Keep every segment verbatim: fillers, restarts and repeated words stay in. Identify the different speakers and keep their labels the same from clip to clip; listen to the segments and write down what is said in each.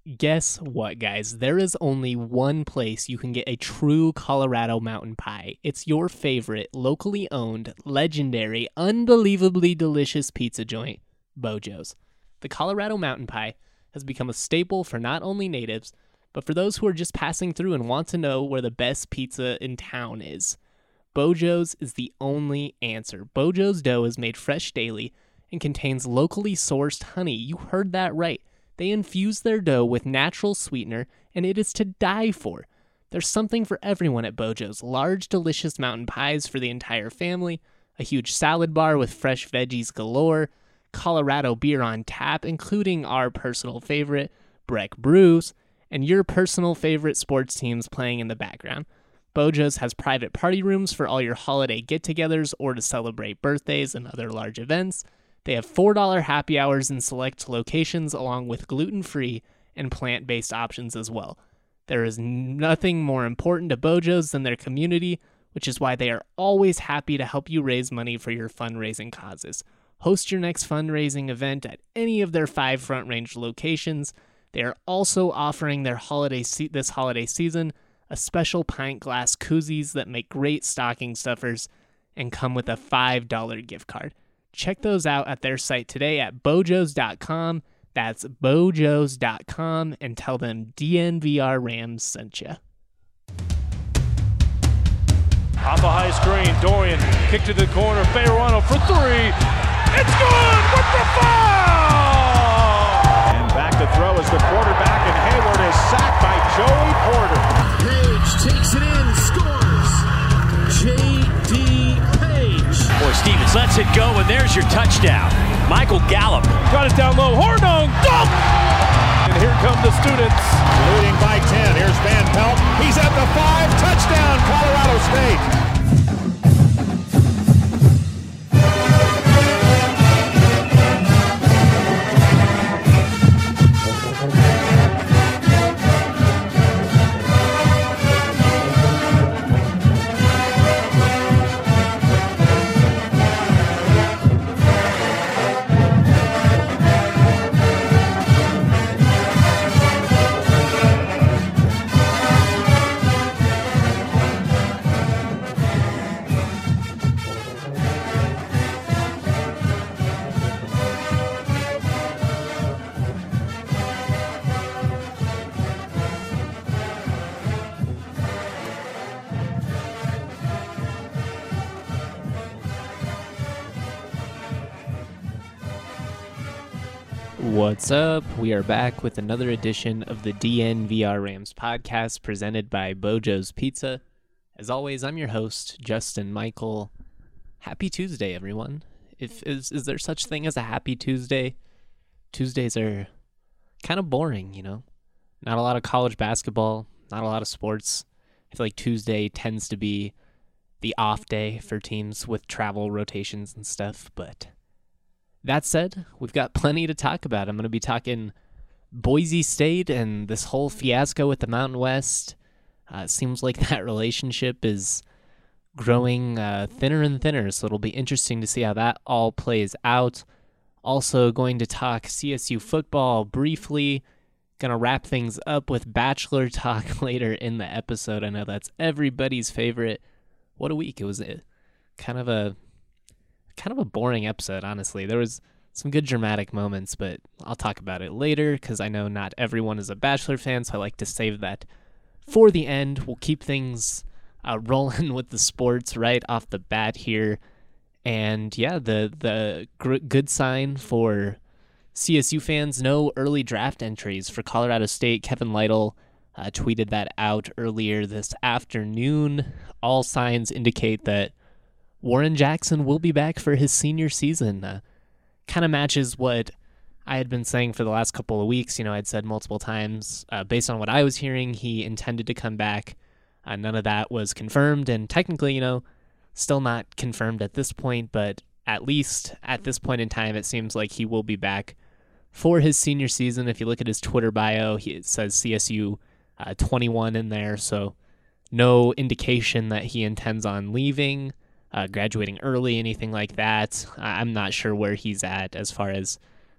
Speaker 1: Guess what, guys? There is only one place you can get a true Colorado mountain pie. It's your favorite, locally owned, legendary, unbelievably delicious pizza joint, Bojo's. The Colorado mountain pie has become a staple for not only natives, but for those who are just passing through and want to know where the best pizza in town is. Bojo's is the only answer. Bojo's dough is made fresh daily and contains locally sourced honey. You heard that right. They infuse their dough with natural sweetener, and it is to die for. There's something for everyone at Bojo's. Large, delicious mountain pies for the entire family, a huge salad bar with fresh veggies galore, Colorado beer on tap, including our personal favorite, Breck Brews, and your personal favorite sports teams playing in the background. Bojo's has private party rooms for all your holiday get-togethers or to celebrate birthdays and other large events. They have four dollars happy hours in select locations along with gluten-free and plant-based options as well. There is nothing more important to Bojo's than their community, which is why they are always happy to help you raise money for your fundraising causes. Host your next fundraising event at any of their five Front Range locations. They are also offering their holiday se- this holiday season a special pint glass koozies that make great stocking stuffers and come with a five dollars gift card. Check those out at their site today at bojos dot com. That's bojos dot com, and tell them D N V R Rams sent you.
Speaker 2: Off a high screen, Dorian kick to the corner, Fayerano for three. It's good with the foul!
Speaker 3: And back to throw is the quarterback, and Hayward is sacked by Joey Porter.
Speaker 4: Page takes it in, scores. J D
Speaker 5: Boy, Stevens lets it go, and there's your touchdown. Michael Gallup.
Speaker 2: Got it down low. Hornung. Dunk! And here come the students.
Speaker 3: Leading by ten. Here's Van Pelt. He's at the five. Touchdown, Colorado State.
Speaker 1: What's up? We are back with another edition of the D N V R Rams podcast presented by Bojo's Pizza. As always, I'm your host, Justin Michael. Happy Tuesday, everyone. If is is there such thing as a happy Tuesday? Tuesdays are kind of boring, you know? Not a lot of college basketball, not a lot of sports. I feel like Tuesday tends to be the off day for teams with travel rotations and stuff, but that said, we've got plenty to talk about. I'm going to be talking Boise State and this whole fiasco with the Mountain West. Uh, it seems like that relationship is growing uh, thinner and thinner, so it'll be interesting to see how that all plays out. Also going to talk C S U football briefly. Going to wrap things up with Bachelor talk later in the episode. I know that's everybody's favorite. What a week. It was a, kind of a... kind of a boring episode, honestly. There was some good dramatic moments, but I'll talk about it later because I know not everyone is a Bachelor fan, so I like to save that for the end. We'll keep things uh, rolling with the sports right off the bat here. And yeah, the the gr- good sign for C S U fans, no early draft entries for Colorado State. Kevin Lytle uh, tweeted that out earlier this afternoon. All signs indicate that Warren Jackson will be back for his senior season. Uh, kind of matches what I had been saying for the last couple of weeks. You know, I'd said multiple times, uh, based on what I was hearing, he intended to come back. Uh, none of that was confirmed, and technically, you know, still not confirmed at this point, but at least at this point in time, it seems like he will be back for his senior season. If you look at his Twitter bio, he, it says C S U uh, twenty-one in there, so no indication that he intends on leaving. Uh, graduating early, anything like that. I'm not sure where he's at as far as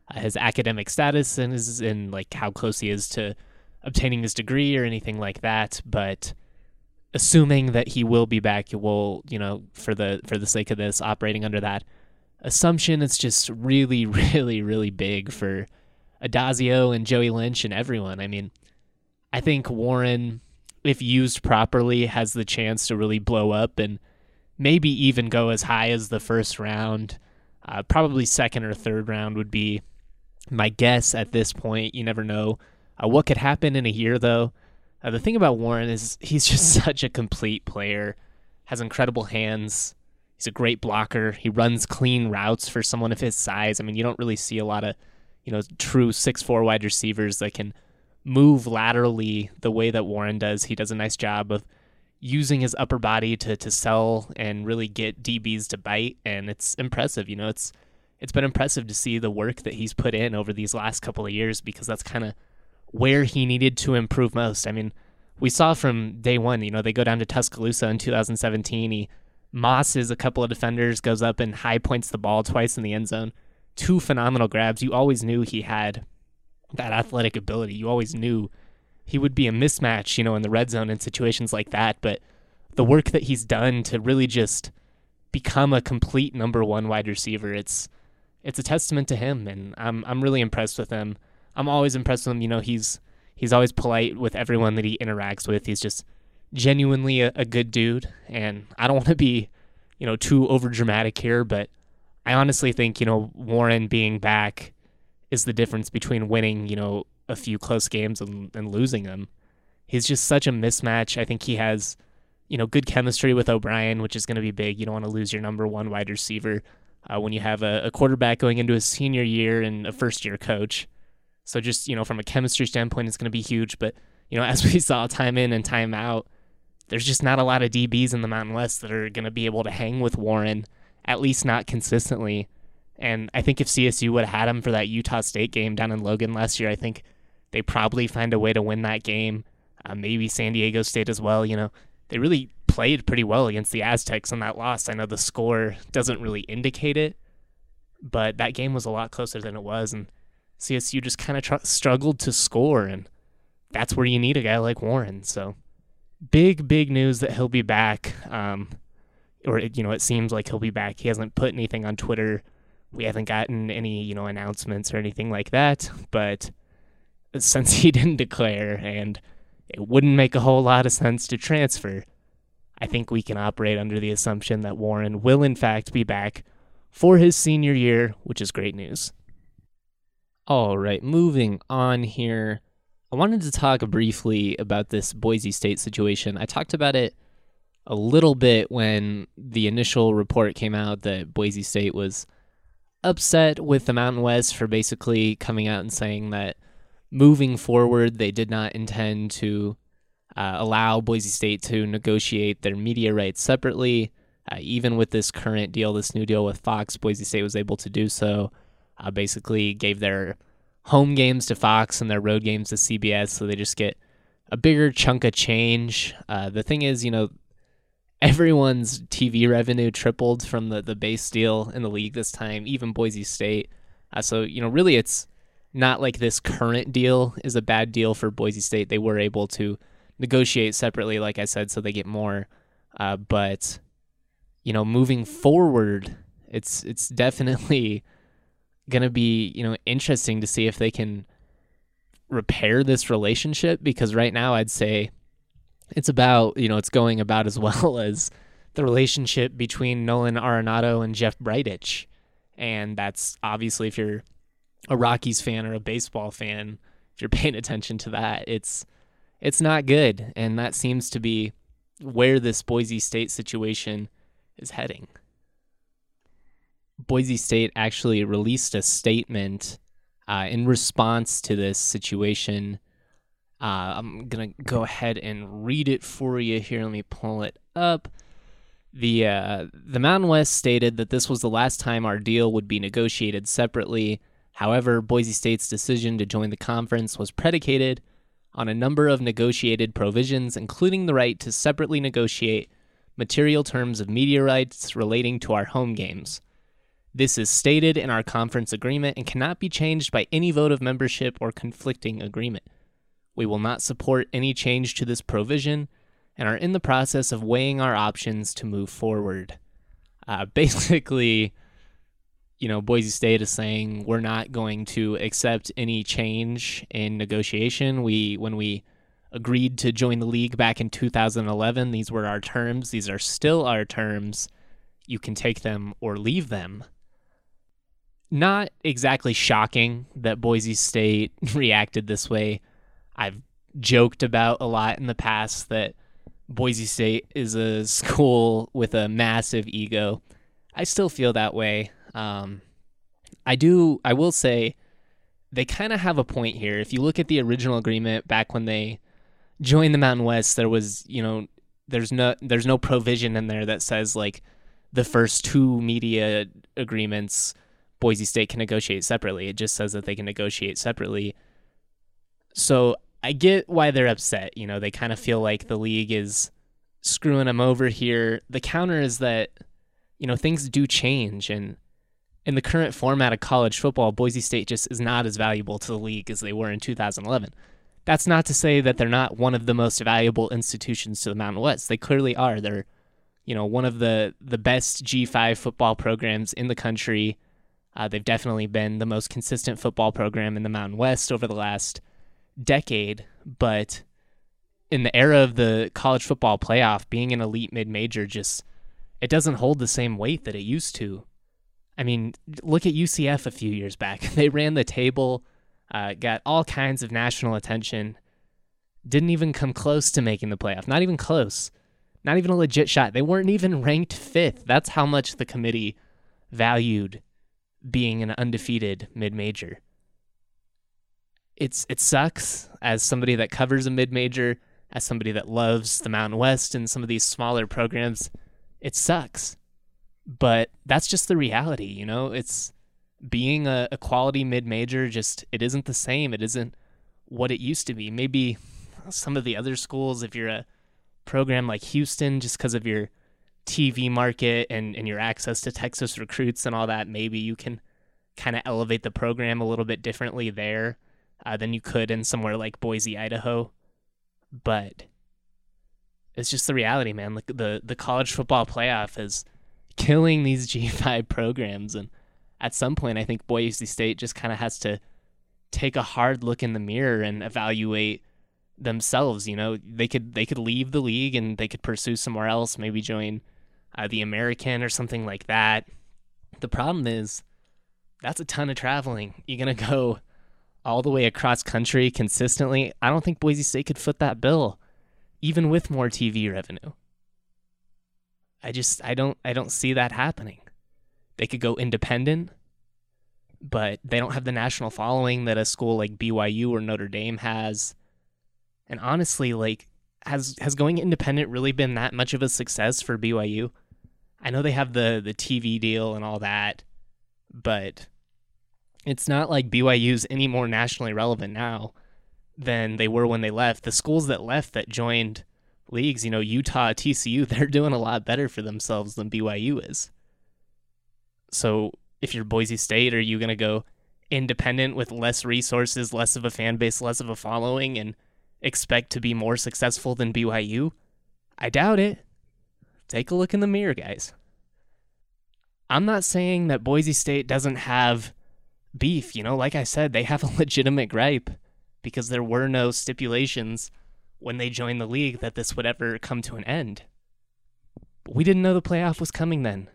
Speaker 1: uh, his academic status and his and like how close he is to obtaining his degree or anything like that. But assuming that he will be back, will you know for the for the sake of this, operating under that assumption, it's just really, really, really big for Addazio and Joey Lynch and everyone. I mean, I think Warren, if used properly, has the chance to really blow up and maybe even go as high as the first round. Uh, probably second or third round would be my guess at this point. You never know uh, what could happen in a year, though. Uh, the thing about Warren is he's just such a complete player, has incredible hands. He's a great blocker. He runs clean routes for someone of his size. I mean, you don't really see a lot of, you know, true six foot four wide receivers that can move laterally the way that Warren does. He does a nice job of using his upper body to to sell and really get D Bs to bite, and it's impressive. You know, it's it's been impressive to see the work that he's put in over these last couple of years, because that's kind of where he needed to improve most. I mean, we saw from day one, you know, they go down to Tuscaloosa in two thousand seventeen. He mosses a couple of defenders, goes up and high points the ball twice in the end zone. Two phenomenal grabs. You always knew he had that athletic ability. You always knew he would be a mismatch, you know, in the red zone in situations like that. But the work that he's done to really just become a complete number one wide receiver, it's it's a testament to him, and I'm I'm really impressed with him. I'm always impressed with him. You know, he's he's always polite with everyone that he interacts with. He's just genuinely a, a good dude, and I don't want to be, you know, too over dramatic here, but I honestly think, you know, Warren being back is the difference between winning, you know, a few close games and, and losing them. He's just such a mismatch. I think he has, you know, good chemistry with O'Brien, which is going to be big. You don't want to lose your number one wide receiver uh, when you have a, a quarterback going into his senior year and a first year coach. So just, you know, from a chemistry standpoint, it's going to be huge. But, you know, as we saw time in and time out, there's just not a lot of D Bs in the Mountain West that are going to be able to hang with Warren, at least not consistently. And I think if C S U would have had him for that Utah State game down in Logan last year, I think they probably find a way to win that game. Uh, maybe San Diego State as well. You know, they really played pretty well against the Aztecs on that loss. I know the score doesn't really indicate it, but that game was a lot closer than it was, and C S U just kind of tr- struggled to score, and that's where you need a guy like Warren. So big, big news that he'll be back, um, or, you know, it seems like he'll be back. He hasn't put anything on Twitter. We haven't gotten any, you know, announcements or anything like that, but since he didn't declare and it wouldn't make a whole lot of sense to transfer, I think we can operate under the assumption that Warren will in fact be back for his senior year, which is great news. All right, moving on here. I wanted to talk briefly about this Boise State situation. I talked about it a little bit when the initial report came out that Boise State was upset with the Mountain West for basically coming out and saying that moving forward, they did not intend to uh, allow Boise State to negotiate their media rights separately. Uh, even with this current deal, this new deal with Fox, Boise State was able to do so. Uh, basically gave their home games to Fox and their road games to C B S, so they just get a bigger chunk of change. Uh, the thing is, you know, everyone's T V revenue tripled from the, the base deal in the league this time, even Boise State. Uh, so, you know, really it's not like this current deal is a bad deal for Boise State. They were able to negotiate separately, like I said, so they get more. Uh, but, you know, moving forward, it's it's definitely going to be, you know, interesting to see if they can repair this relationship, because right now I'd say it's about, you know, it's going about as well as the relationship between Nolan Arenado and Jeff Bridich. And that's obviously, if you're a Rockies fan or a baseball fan, if you're paying attention to that, it's it's not good. And that seems to be where this Boise State situation is heading. Boise State actually released a statement uh, in response to this situation. Uh, I'm going to go ahead and read it for you here. Let me pull it up. The, uh, the Mountain West stated that this was the last time our deal would be negotiated separately. However, Boise State's decision to join the conference was predicated on a number of negotiated provisions, including the right to separately negotiate material terms of media rights relating to our home games. This is stated in our conference agreement and cannot be changed by any vote of membership or conflicting agreement. We will not support any change to this provision and are in the process of weighing our options to move forward. Uh, basically, you know, Boise State is saying we're not going to accept any change in negotiation. We, when we agreed to join the league back in two thousand eleven, these were our terms. These are still our terms. You can take them or leave them. Not exactly shocking that Boise State reacted this way. I've joked about a lot in the past that Boise State is a school with a massive ego. I still feel that way. Um, I do, I will say they kind of have a point here. If you look at the original agreement back when they joined the Mountain West, there was, you know, there's no, there's no provision in there that says like the first two media agreements Boise State can negotiate separately. It just says that they can negotiate separately. So I get why they're upset. You know, they kind of feel like the league is screwing them over here. The counter is that, you know, things do change. And in the current format of college football, Boise State just is not as valuable to the league as they were in two thousand eleven. That's not to say that they're not one of the most valuable institutions to the Mountain West. They clearly are. They're, you know, one of the, the best G five football programs in the country. Uh, they've definitely been the most consistent football program in the Mountain West over the last decade, but in the era of the college football playoff, being an elite mid-major just, it doesn't hold the same weight that it used to. I mean, look at U C F a few years back. They ran the table, uh, got all kinds of national attention, didn't even come close to making the playoff. Not even close. Not even a legit shot. They weren't even ranked fifth. That's how much the committee valued being an undefeated mid-major. It's it sucks as somebody that covers a mid-major, as somebody that loves the Mountain West and some of these smaller programs. It sucks. But that's just the reality, you know? It's being a, a quality mid-major, just it isn't the same. It isn't what it used to be. Maybe some of the other schools, if you're a program like Houston, just because of your T V market and, and your access to Texas recruits and all that, maybe you can kind of elevate the program a little bit differently there uh, than you could in somewhere like Boise, Idaho. But it's just the reality, man. Like the, the college football playoff is killing these G five programs. And at some point, I think Boise State just kind of has to take a hard look in the mirror and evaluate themselves. You know, they could they could leave the league and they could pursue somewhere else, maybe join uh, the American or something like that. The problem is that's a ton of traveling. You're going to go all the way across country consistently. I don't think Boise State could foot that bill, even with more T V revenue. I just, I don't, I don't see that happening. They could go independent, but they don't have the national following that a school like B Y U or Notre Dame has. And honestly, like, has has going independent really been that much of a success for B Y U? I know they have the the T V deal and all that, but it's not like B Y U's any more nationally relevant now than they were when they left. The schools that left that joined leagues, you know, Utah, T C U, they're doing a lot better for themselves than B Y U is. So if you're Boise State, are you going to go independent with less resources, less of a fan base, less of a following, and expect to be more successful than B Y U? I doubt it. Take a look in the mirror, guys. I'm not saying that Boise State doesn't have beef. You know, like I said, they have a legitimate gripe because there were no stipulations when they joined the league that this would ever come to an end. But we didn't know the playoff was coming then.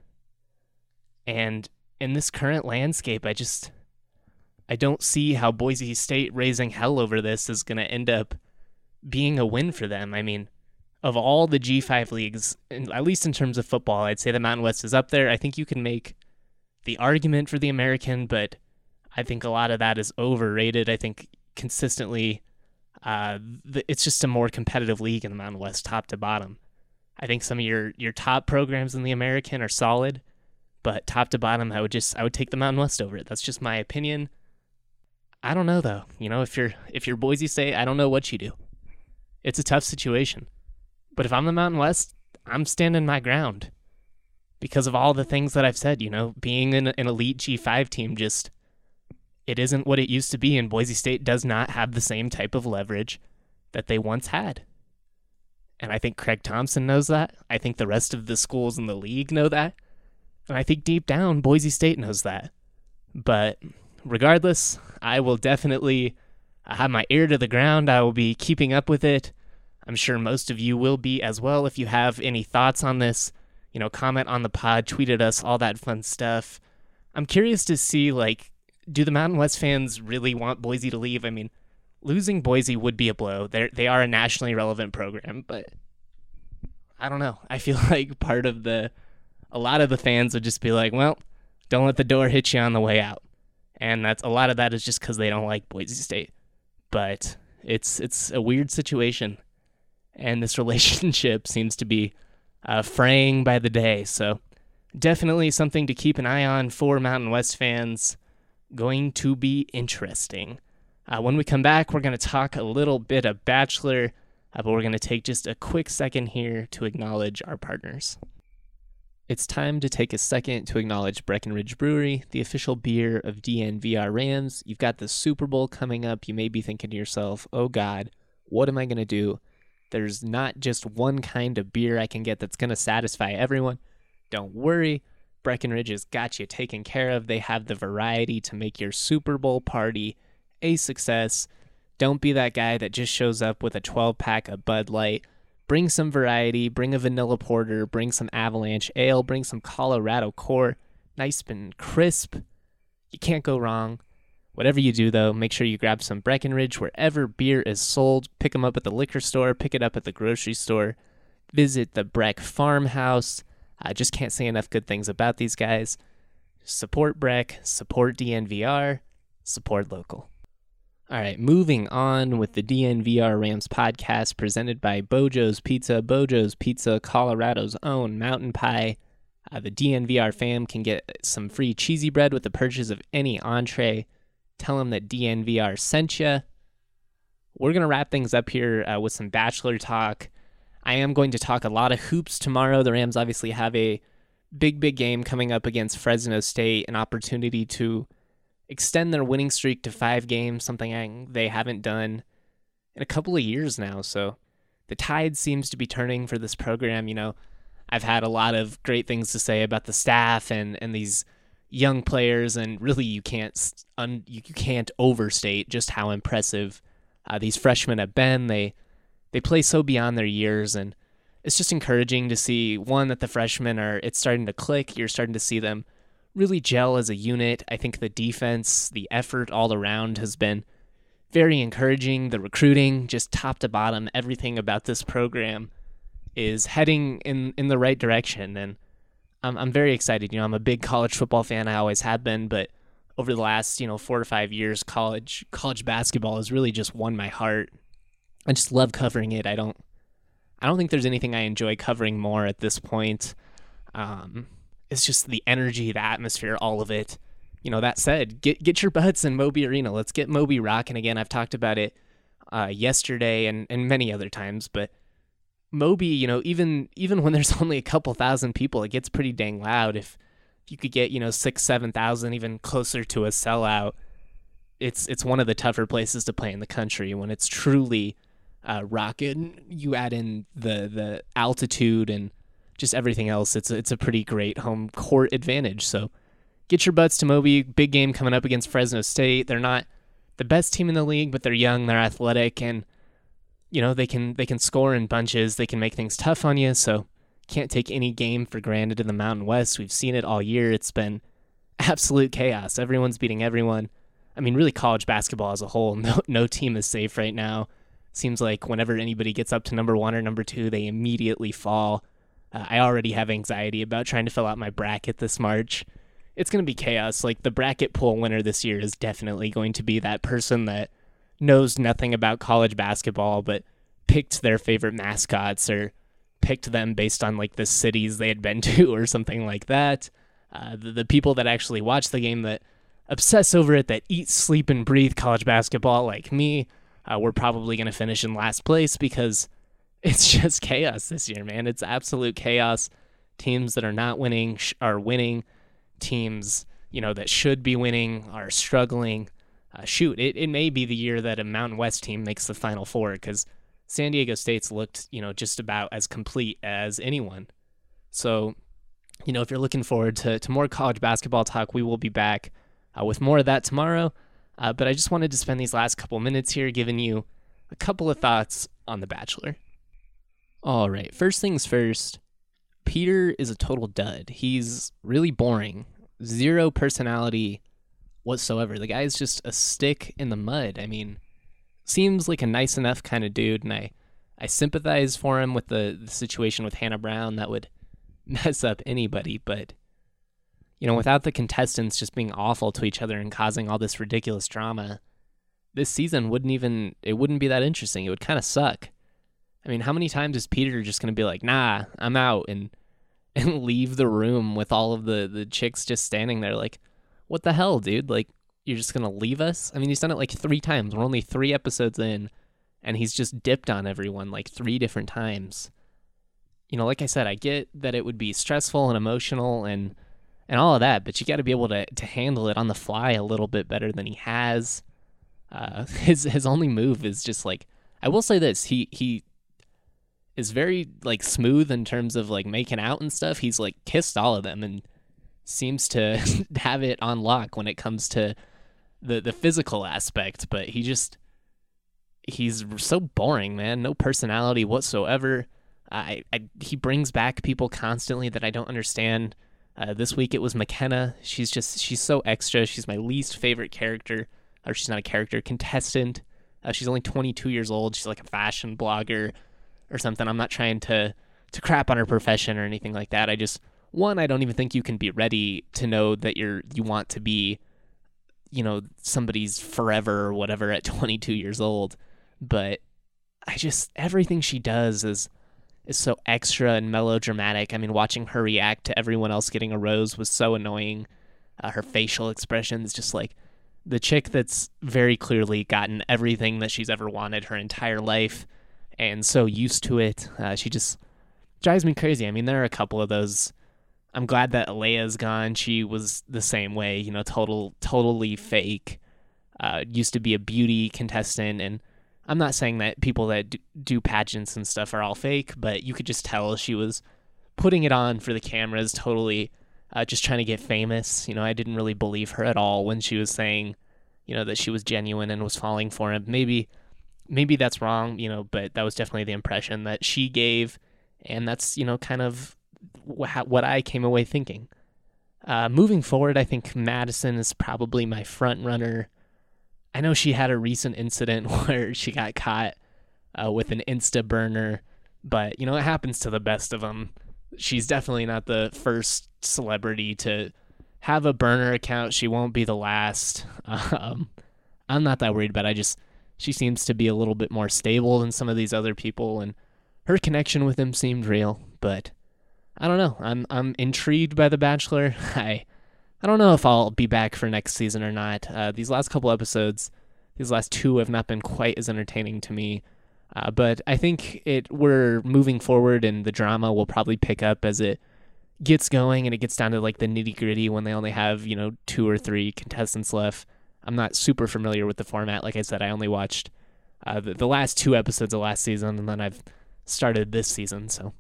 Speaker 1: And in this current landscape, I just, I don't see how Boise State raising hell over this is going to end up being a win for them. I mean, of all the G five leagues, at least in terms of football, I'd say the Mountain West is up there. I think you can make the argument for the American, but I think a lot of that is overrated. I think consistently, uh, the, it's just a more competitive league in the Mountain West, top to bottom. I think some of your, your top programs in the American are solid, but top to bottom, I would just I would take the Mountain West over it. That's just my opinion. I don't know though. You know, if you're if you're Boise State, I don't know what you do. It's a tough situation. But if I'm the Mountain West, I'm standing my ground. because of all the things that I've said. You know, being an, an elite G five team, just it isn't what it used to be, and Boise State does not have the same type of leverage that they once had. And I think Craig Thompson knows that. I think the rest of the schools in the league know that. And I think deep down, Boise State knows that. But regardless, I will definitely have my ear to the ground. I will be keeping up with it. I'm sure most of you will be as well. If you have any thoughts on this, you know, comment on the pod, tweet at us, all that fun stuff. I'm curious to see, like, do the Mountain West fans really want Boise to leave? I mean, losing Boise would be a blow. They're, they are a nationally relevant program, but I don't know. I feel like part of the, a lot of the fans would just be like, well, don't let the door hit you on the way out. And that's a lot of that is just because they don't like Boise State. But it's it's a weird situation. And this relationship seems to be uh, fraying by the day. So definitely something to keep an eye on for Mountain West fans. Going to be interesting. Uh, when we come back, we're going to talk a little bit of Bachelor, uh, but we're going to take just a quick second here to acknowledge our partners. It's time to take a second to acknowledge Breckenridge Brewery, the official beer of D N V R Rams. You've got the Super Bowl coming up. You may be thinking to yourself, oh God, what am I going to do? There's not just one kind of beer I can get that's going to satisfy everyone. Don't worry. Breckenridge has got you taken care of. They have the variety to make your Super Bowl party a success. Don't be that guy that just shows up with a twelve-pack of Bud Light. Bring some variety. Bring a vanilla porter. Bring some Avalanche Ale. Bring some Colorado Core. Nice and crisp. You can't go wrong. Whatever you do, though, make sure you grab some Breckenridge wherever beer is sold. Pick them up at the liquor store. Pick it up at the grocery store. Visit the Breck Farmhouse. I just can't say enough good things about these guys. Support Breck, support D N V R, support local. All right, moving on with the D N V R Rams podcast presented by Bojo's Pizza. Bojo's Pizza, Colorado's own mountain pie. Uh, the D N V R fam can get some free cheesy bread with the purchase of any entree. Tell them that D N V R sent you. We're going to wrap things up here uh, with some Bachelor talk. I am going to talk a lot of hoops tomorrow. The Rams obviously have a big, big game coming up against Fresno State, an opportunity to extend their winning streak to five games, something they haven't done in a couple of years now. So the tide seems to be turning for this program. You know, I've had a lot of great things to say about the staff and, and these young players, and really you can't un, you can't overstate just how impressive uh, these freshmen have been. They They play so beyond their years, and it's just encouraging to see, one, that the freshmen are, it's starting to click. You're starting to see them really gel as a unit. I think the defense, the effort all around has been very encouraging. The recruiting, just top to bottom, everything about this program is heading in, in the right direction, and I'm, I'm very excited. You know, I'm a big college football fan. I always have been, but over the last, you know, four or five years, college college basketball has really just won my heart. I just love covering it. I don't I don't think there's anything I enjoy covering more at this point. Um, it's just the energy, the atmosphere, all of it. You know, that said, get get your butts in Moby Arena. Let's get Moby rocking again. I've talked about it uh, yesterday and, and many other times, but Moby, you know, even even when there's only a couple thousand people, it gets pretty dang loud. If you could get, you know, six, seven thousand, even closer to a sellout, it's it's one of the tougher places to play in the country when it's truly uh, rocking. You add in the the altitude and just everything else. It's a, it's a pretty great home court advantage. So get your butts to Moby. Big game coming up against Fresno State. They're not the best team in the league, but they're young, they're athletic, and you know, they can they can score in bunches. They can make things tough on you, so can't take any game for granted in the Mountain West. We've seen it all year. It's been absolute chaos. Everyone's beating everyone. I mean, really college basketball as a whole, no no team is safe right now. Seems like whenever anybody gets up to number one or number two, they immediately fall. Uh, I already have anxiety about trying to fill out my bracket this March. It's going to be chaos. Like, the bracket pool winner this year is definitely going to be that person that knows nothing about college basketball but picked their favorite mascots or picked them based on like the cities they had been to or something like that. Uh, the, the people that actually watch the game, that obsess over it, that eat, sleep, and breathe college basketball like me, uh, we're probably going to finish in last place because it's just chaos this year, man. It's absolute chaos. Teams that are not winning sh- are winning. Teams, you know, that should be winning are struggling. Uh, shoot, it, it may be the year that a Mountain West team makes the Final Four, because San Diego State's looked, you know, just about as complete as anyone. So, you know, if you're looking forward to, to more college basketball talk, we will be back uh, with more of that tomorrow. Uh, but I just wanted to spend these last couple minutes here giving you a couple of thoughts on The Bachelor. All right, first things first, Peter is a total dud. He's really boring. Zero personality whatsoever. The guy's just a stick in the mud. I mean, seems like a nice enough kind of dude, and I, I sympathize for him with the, the situation with Hannah Brown. That would mess up anybody, but, you know, without the contestants just being awful to each other and causing all this ridiculous drama, this season wouldn't even, it wouldn't be that interesting. It would kind of suck. I mean, how many times is Peter just going to be like, nah, I'm out, and and leave the room with all of the, the chicks just standing there like, what the hell, dude? Like, you're just going to leave us? I mean, he's done it like three times. We're only three episodes in, and he's just dipped on everyone like three different times. You know, like I said, I get that it would be stressful and emotional and and all of that, but you got to be able to, to handle it on the fly a little bit better than he has. Uh, his his only move is just like, I will say this, he he is very like smooth in terms of like making out and stuff. He's like kissed all of them and seems to have it on lock when it comes to the the physical aspect, but he just he's so boring, man. No personality whatsoever. I, I he brings back people constantly that I don't understand. Uh, this week it was McKenna. She's just she's so extra. She's my least favorite character, or she's not a character, contestant. Uh, she's only twenty-two years old. She's like a fashion blogger or something. I'm not trying to to crap on her profession or anything like that. I just one I don't even think you can be ready to know that you're you want to be, you know, somebody's forever or whatever at twenty-two years old. But I just everything she does is is so extra and melodramatic. I mean, watching her react to everyone else getting a rose was so annoying. Uh, her facial expressions, just like the chick that's very clearly gotten everything that she's ever wanted her entire life and so used to it. Uh, she just drives me crazy. I mean, there are a couple of those. I'm glad that Alea's gone. She was the same way, you know, total, totally fake. Uh, used to be a beauty contestant, and I'm not saying that people that do pageants and stuff are all fake, but you could just tell she was putting it on for the cameras, totally uh, just trying to get famous. You know, I didn't really believe her at all when she was saying, you know, that she was genuine and was falling for him. Maybe, maybe that's wrong, you know, but that was definitely the impression that she gave, and that's, you know, kind of what I came away thinking. Uh, moving forward, I think Madison is probably my front runner. I know she had a recent incident where she got caught uh, with an Insta burner, but, you know, it happens to the best of them. She's definitely not the first celebrity to have a burner account. She won't be the last. Um, I'm not that worried, but I just, she seems to be a little bit more stable than some of these other people, and her connection with him seemed real, but I don't know. I'm I'm intrigued by The Bachelor. I I don't know if I'll be back for next season or not. Uh, these last couple episodes, these last two have not been quite as entertaining to me. Uh, but I think it we're moving forward, and the drama will probably pick up as it gets going and it gets down to like the nitty gritty when they only have, you know, two or three contestants left. I'm not super familiar with the format. Like I said, I only watched uh, the, the last two episodes of last season, and then I've started this season, so.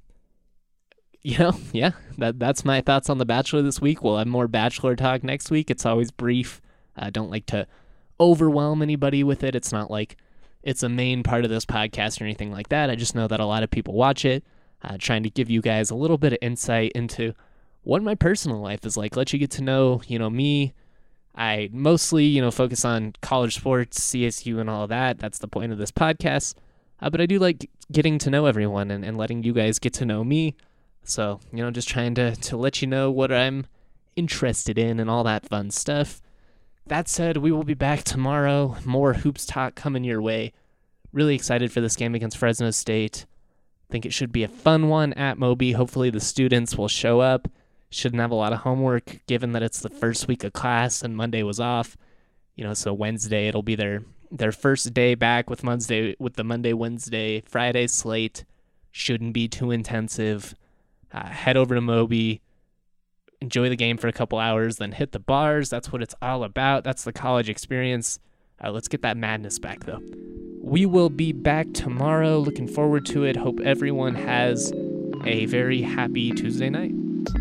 Speaker 1: You know, yeah, that that's my thoughts on The Bachelor this week. We'll have more Bachelor talk next week. It's always brief. I don't like to overwhelm anybody with it. It's not like it's a main part of this podcast or anything like that. I just know that a lot of people watch it, uh, trying to give you guys a little bit of insight into what my personal life is like. Let you get to know, you know, me. I mostly, you know, focus on college sports, C S U, and all of that. That's the point of this podcast. Uh, but I do like getting to know everyone and, and letting you guys get to know me. So, you know, just trying to, to let you know what I'm interested in and all that fun stuff. That said, we will be back tomorrow. More hoops talk coming your way. Really excited for this game against Fresno State. Think it should be a fun one at Moby. Hopefully the students will show up. Shouldn't have a lot of homework given that it's the first week of class and Monday was off. You know, so Wednesday it'll be their their first day back with Monday with the Monday, Wednesday, Friday slate. Shouldn't be too intensive. uh, head over to Moby, enjoy the game for a couple hours, then hit the bars. That's what it's all about. That's the college experience. Uh, let's get that madness back, though. We will be back tomorrow. Looking forward to it. Hope everyone has a very happy Tuesday night.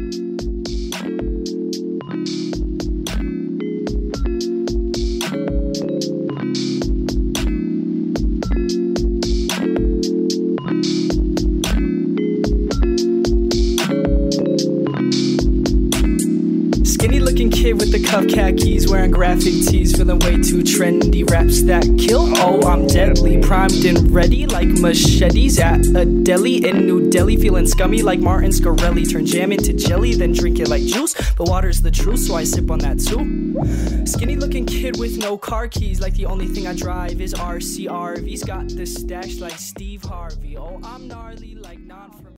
Speaker 6: Kid with the cuff khakis, wearing graphic tees, feeling way too trendy. Raps that kill, oh I'm deadly, primed and ready like machetes at a deli in New Delhi. Feeling scummy like Martin Scarelli, turn jam into jelly, then drink it like juice. But water's the truth, so I sip on that too. Skinny looking kid with no car keys, like the only thing I drive is R C R Vs. Got the stash like Steve Harvey, oh I'm gnarly like non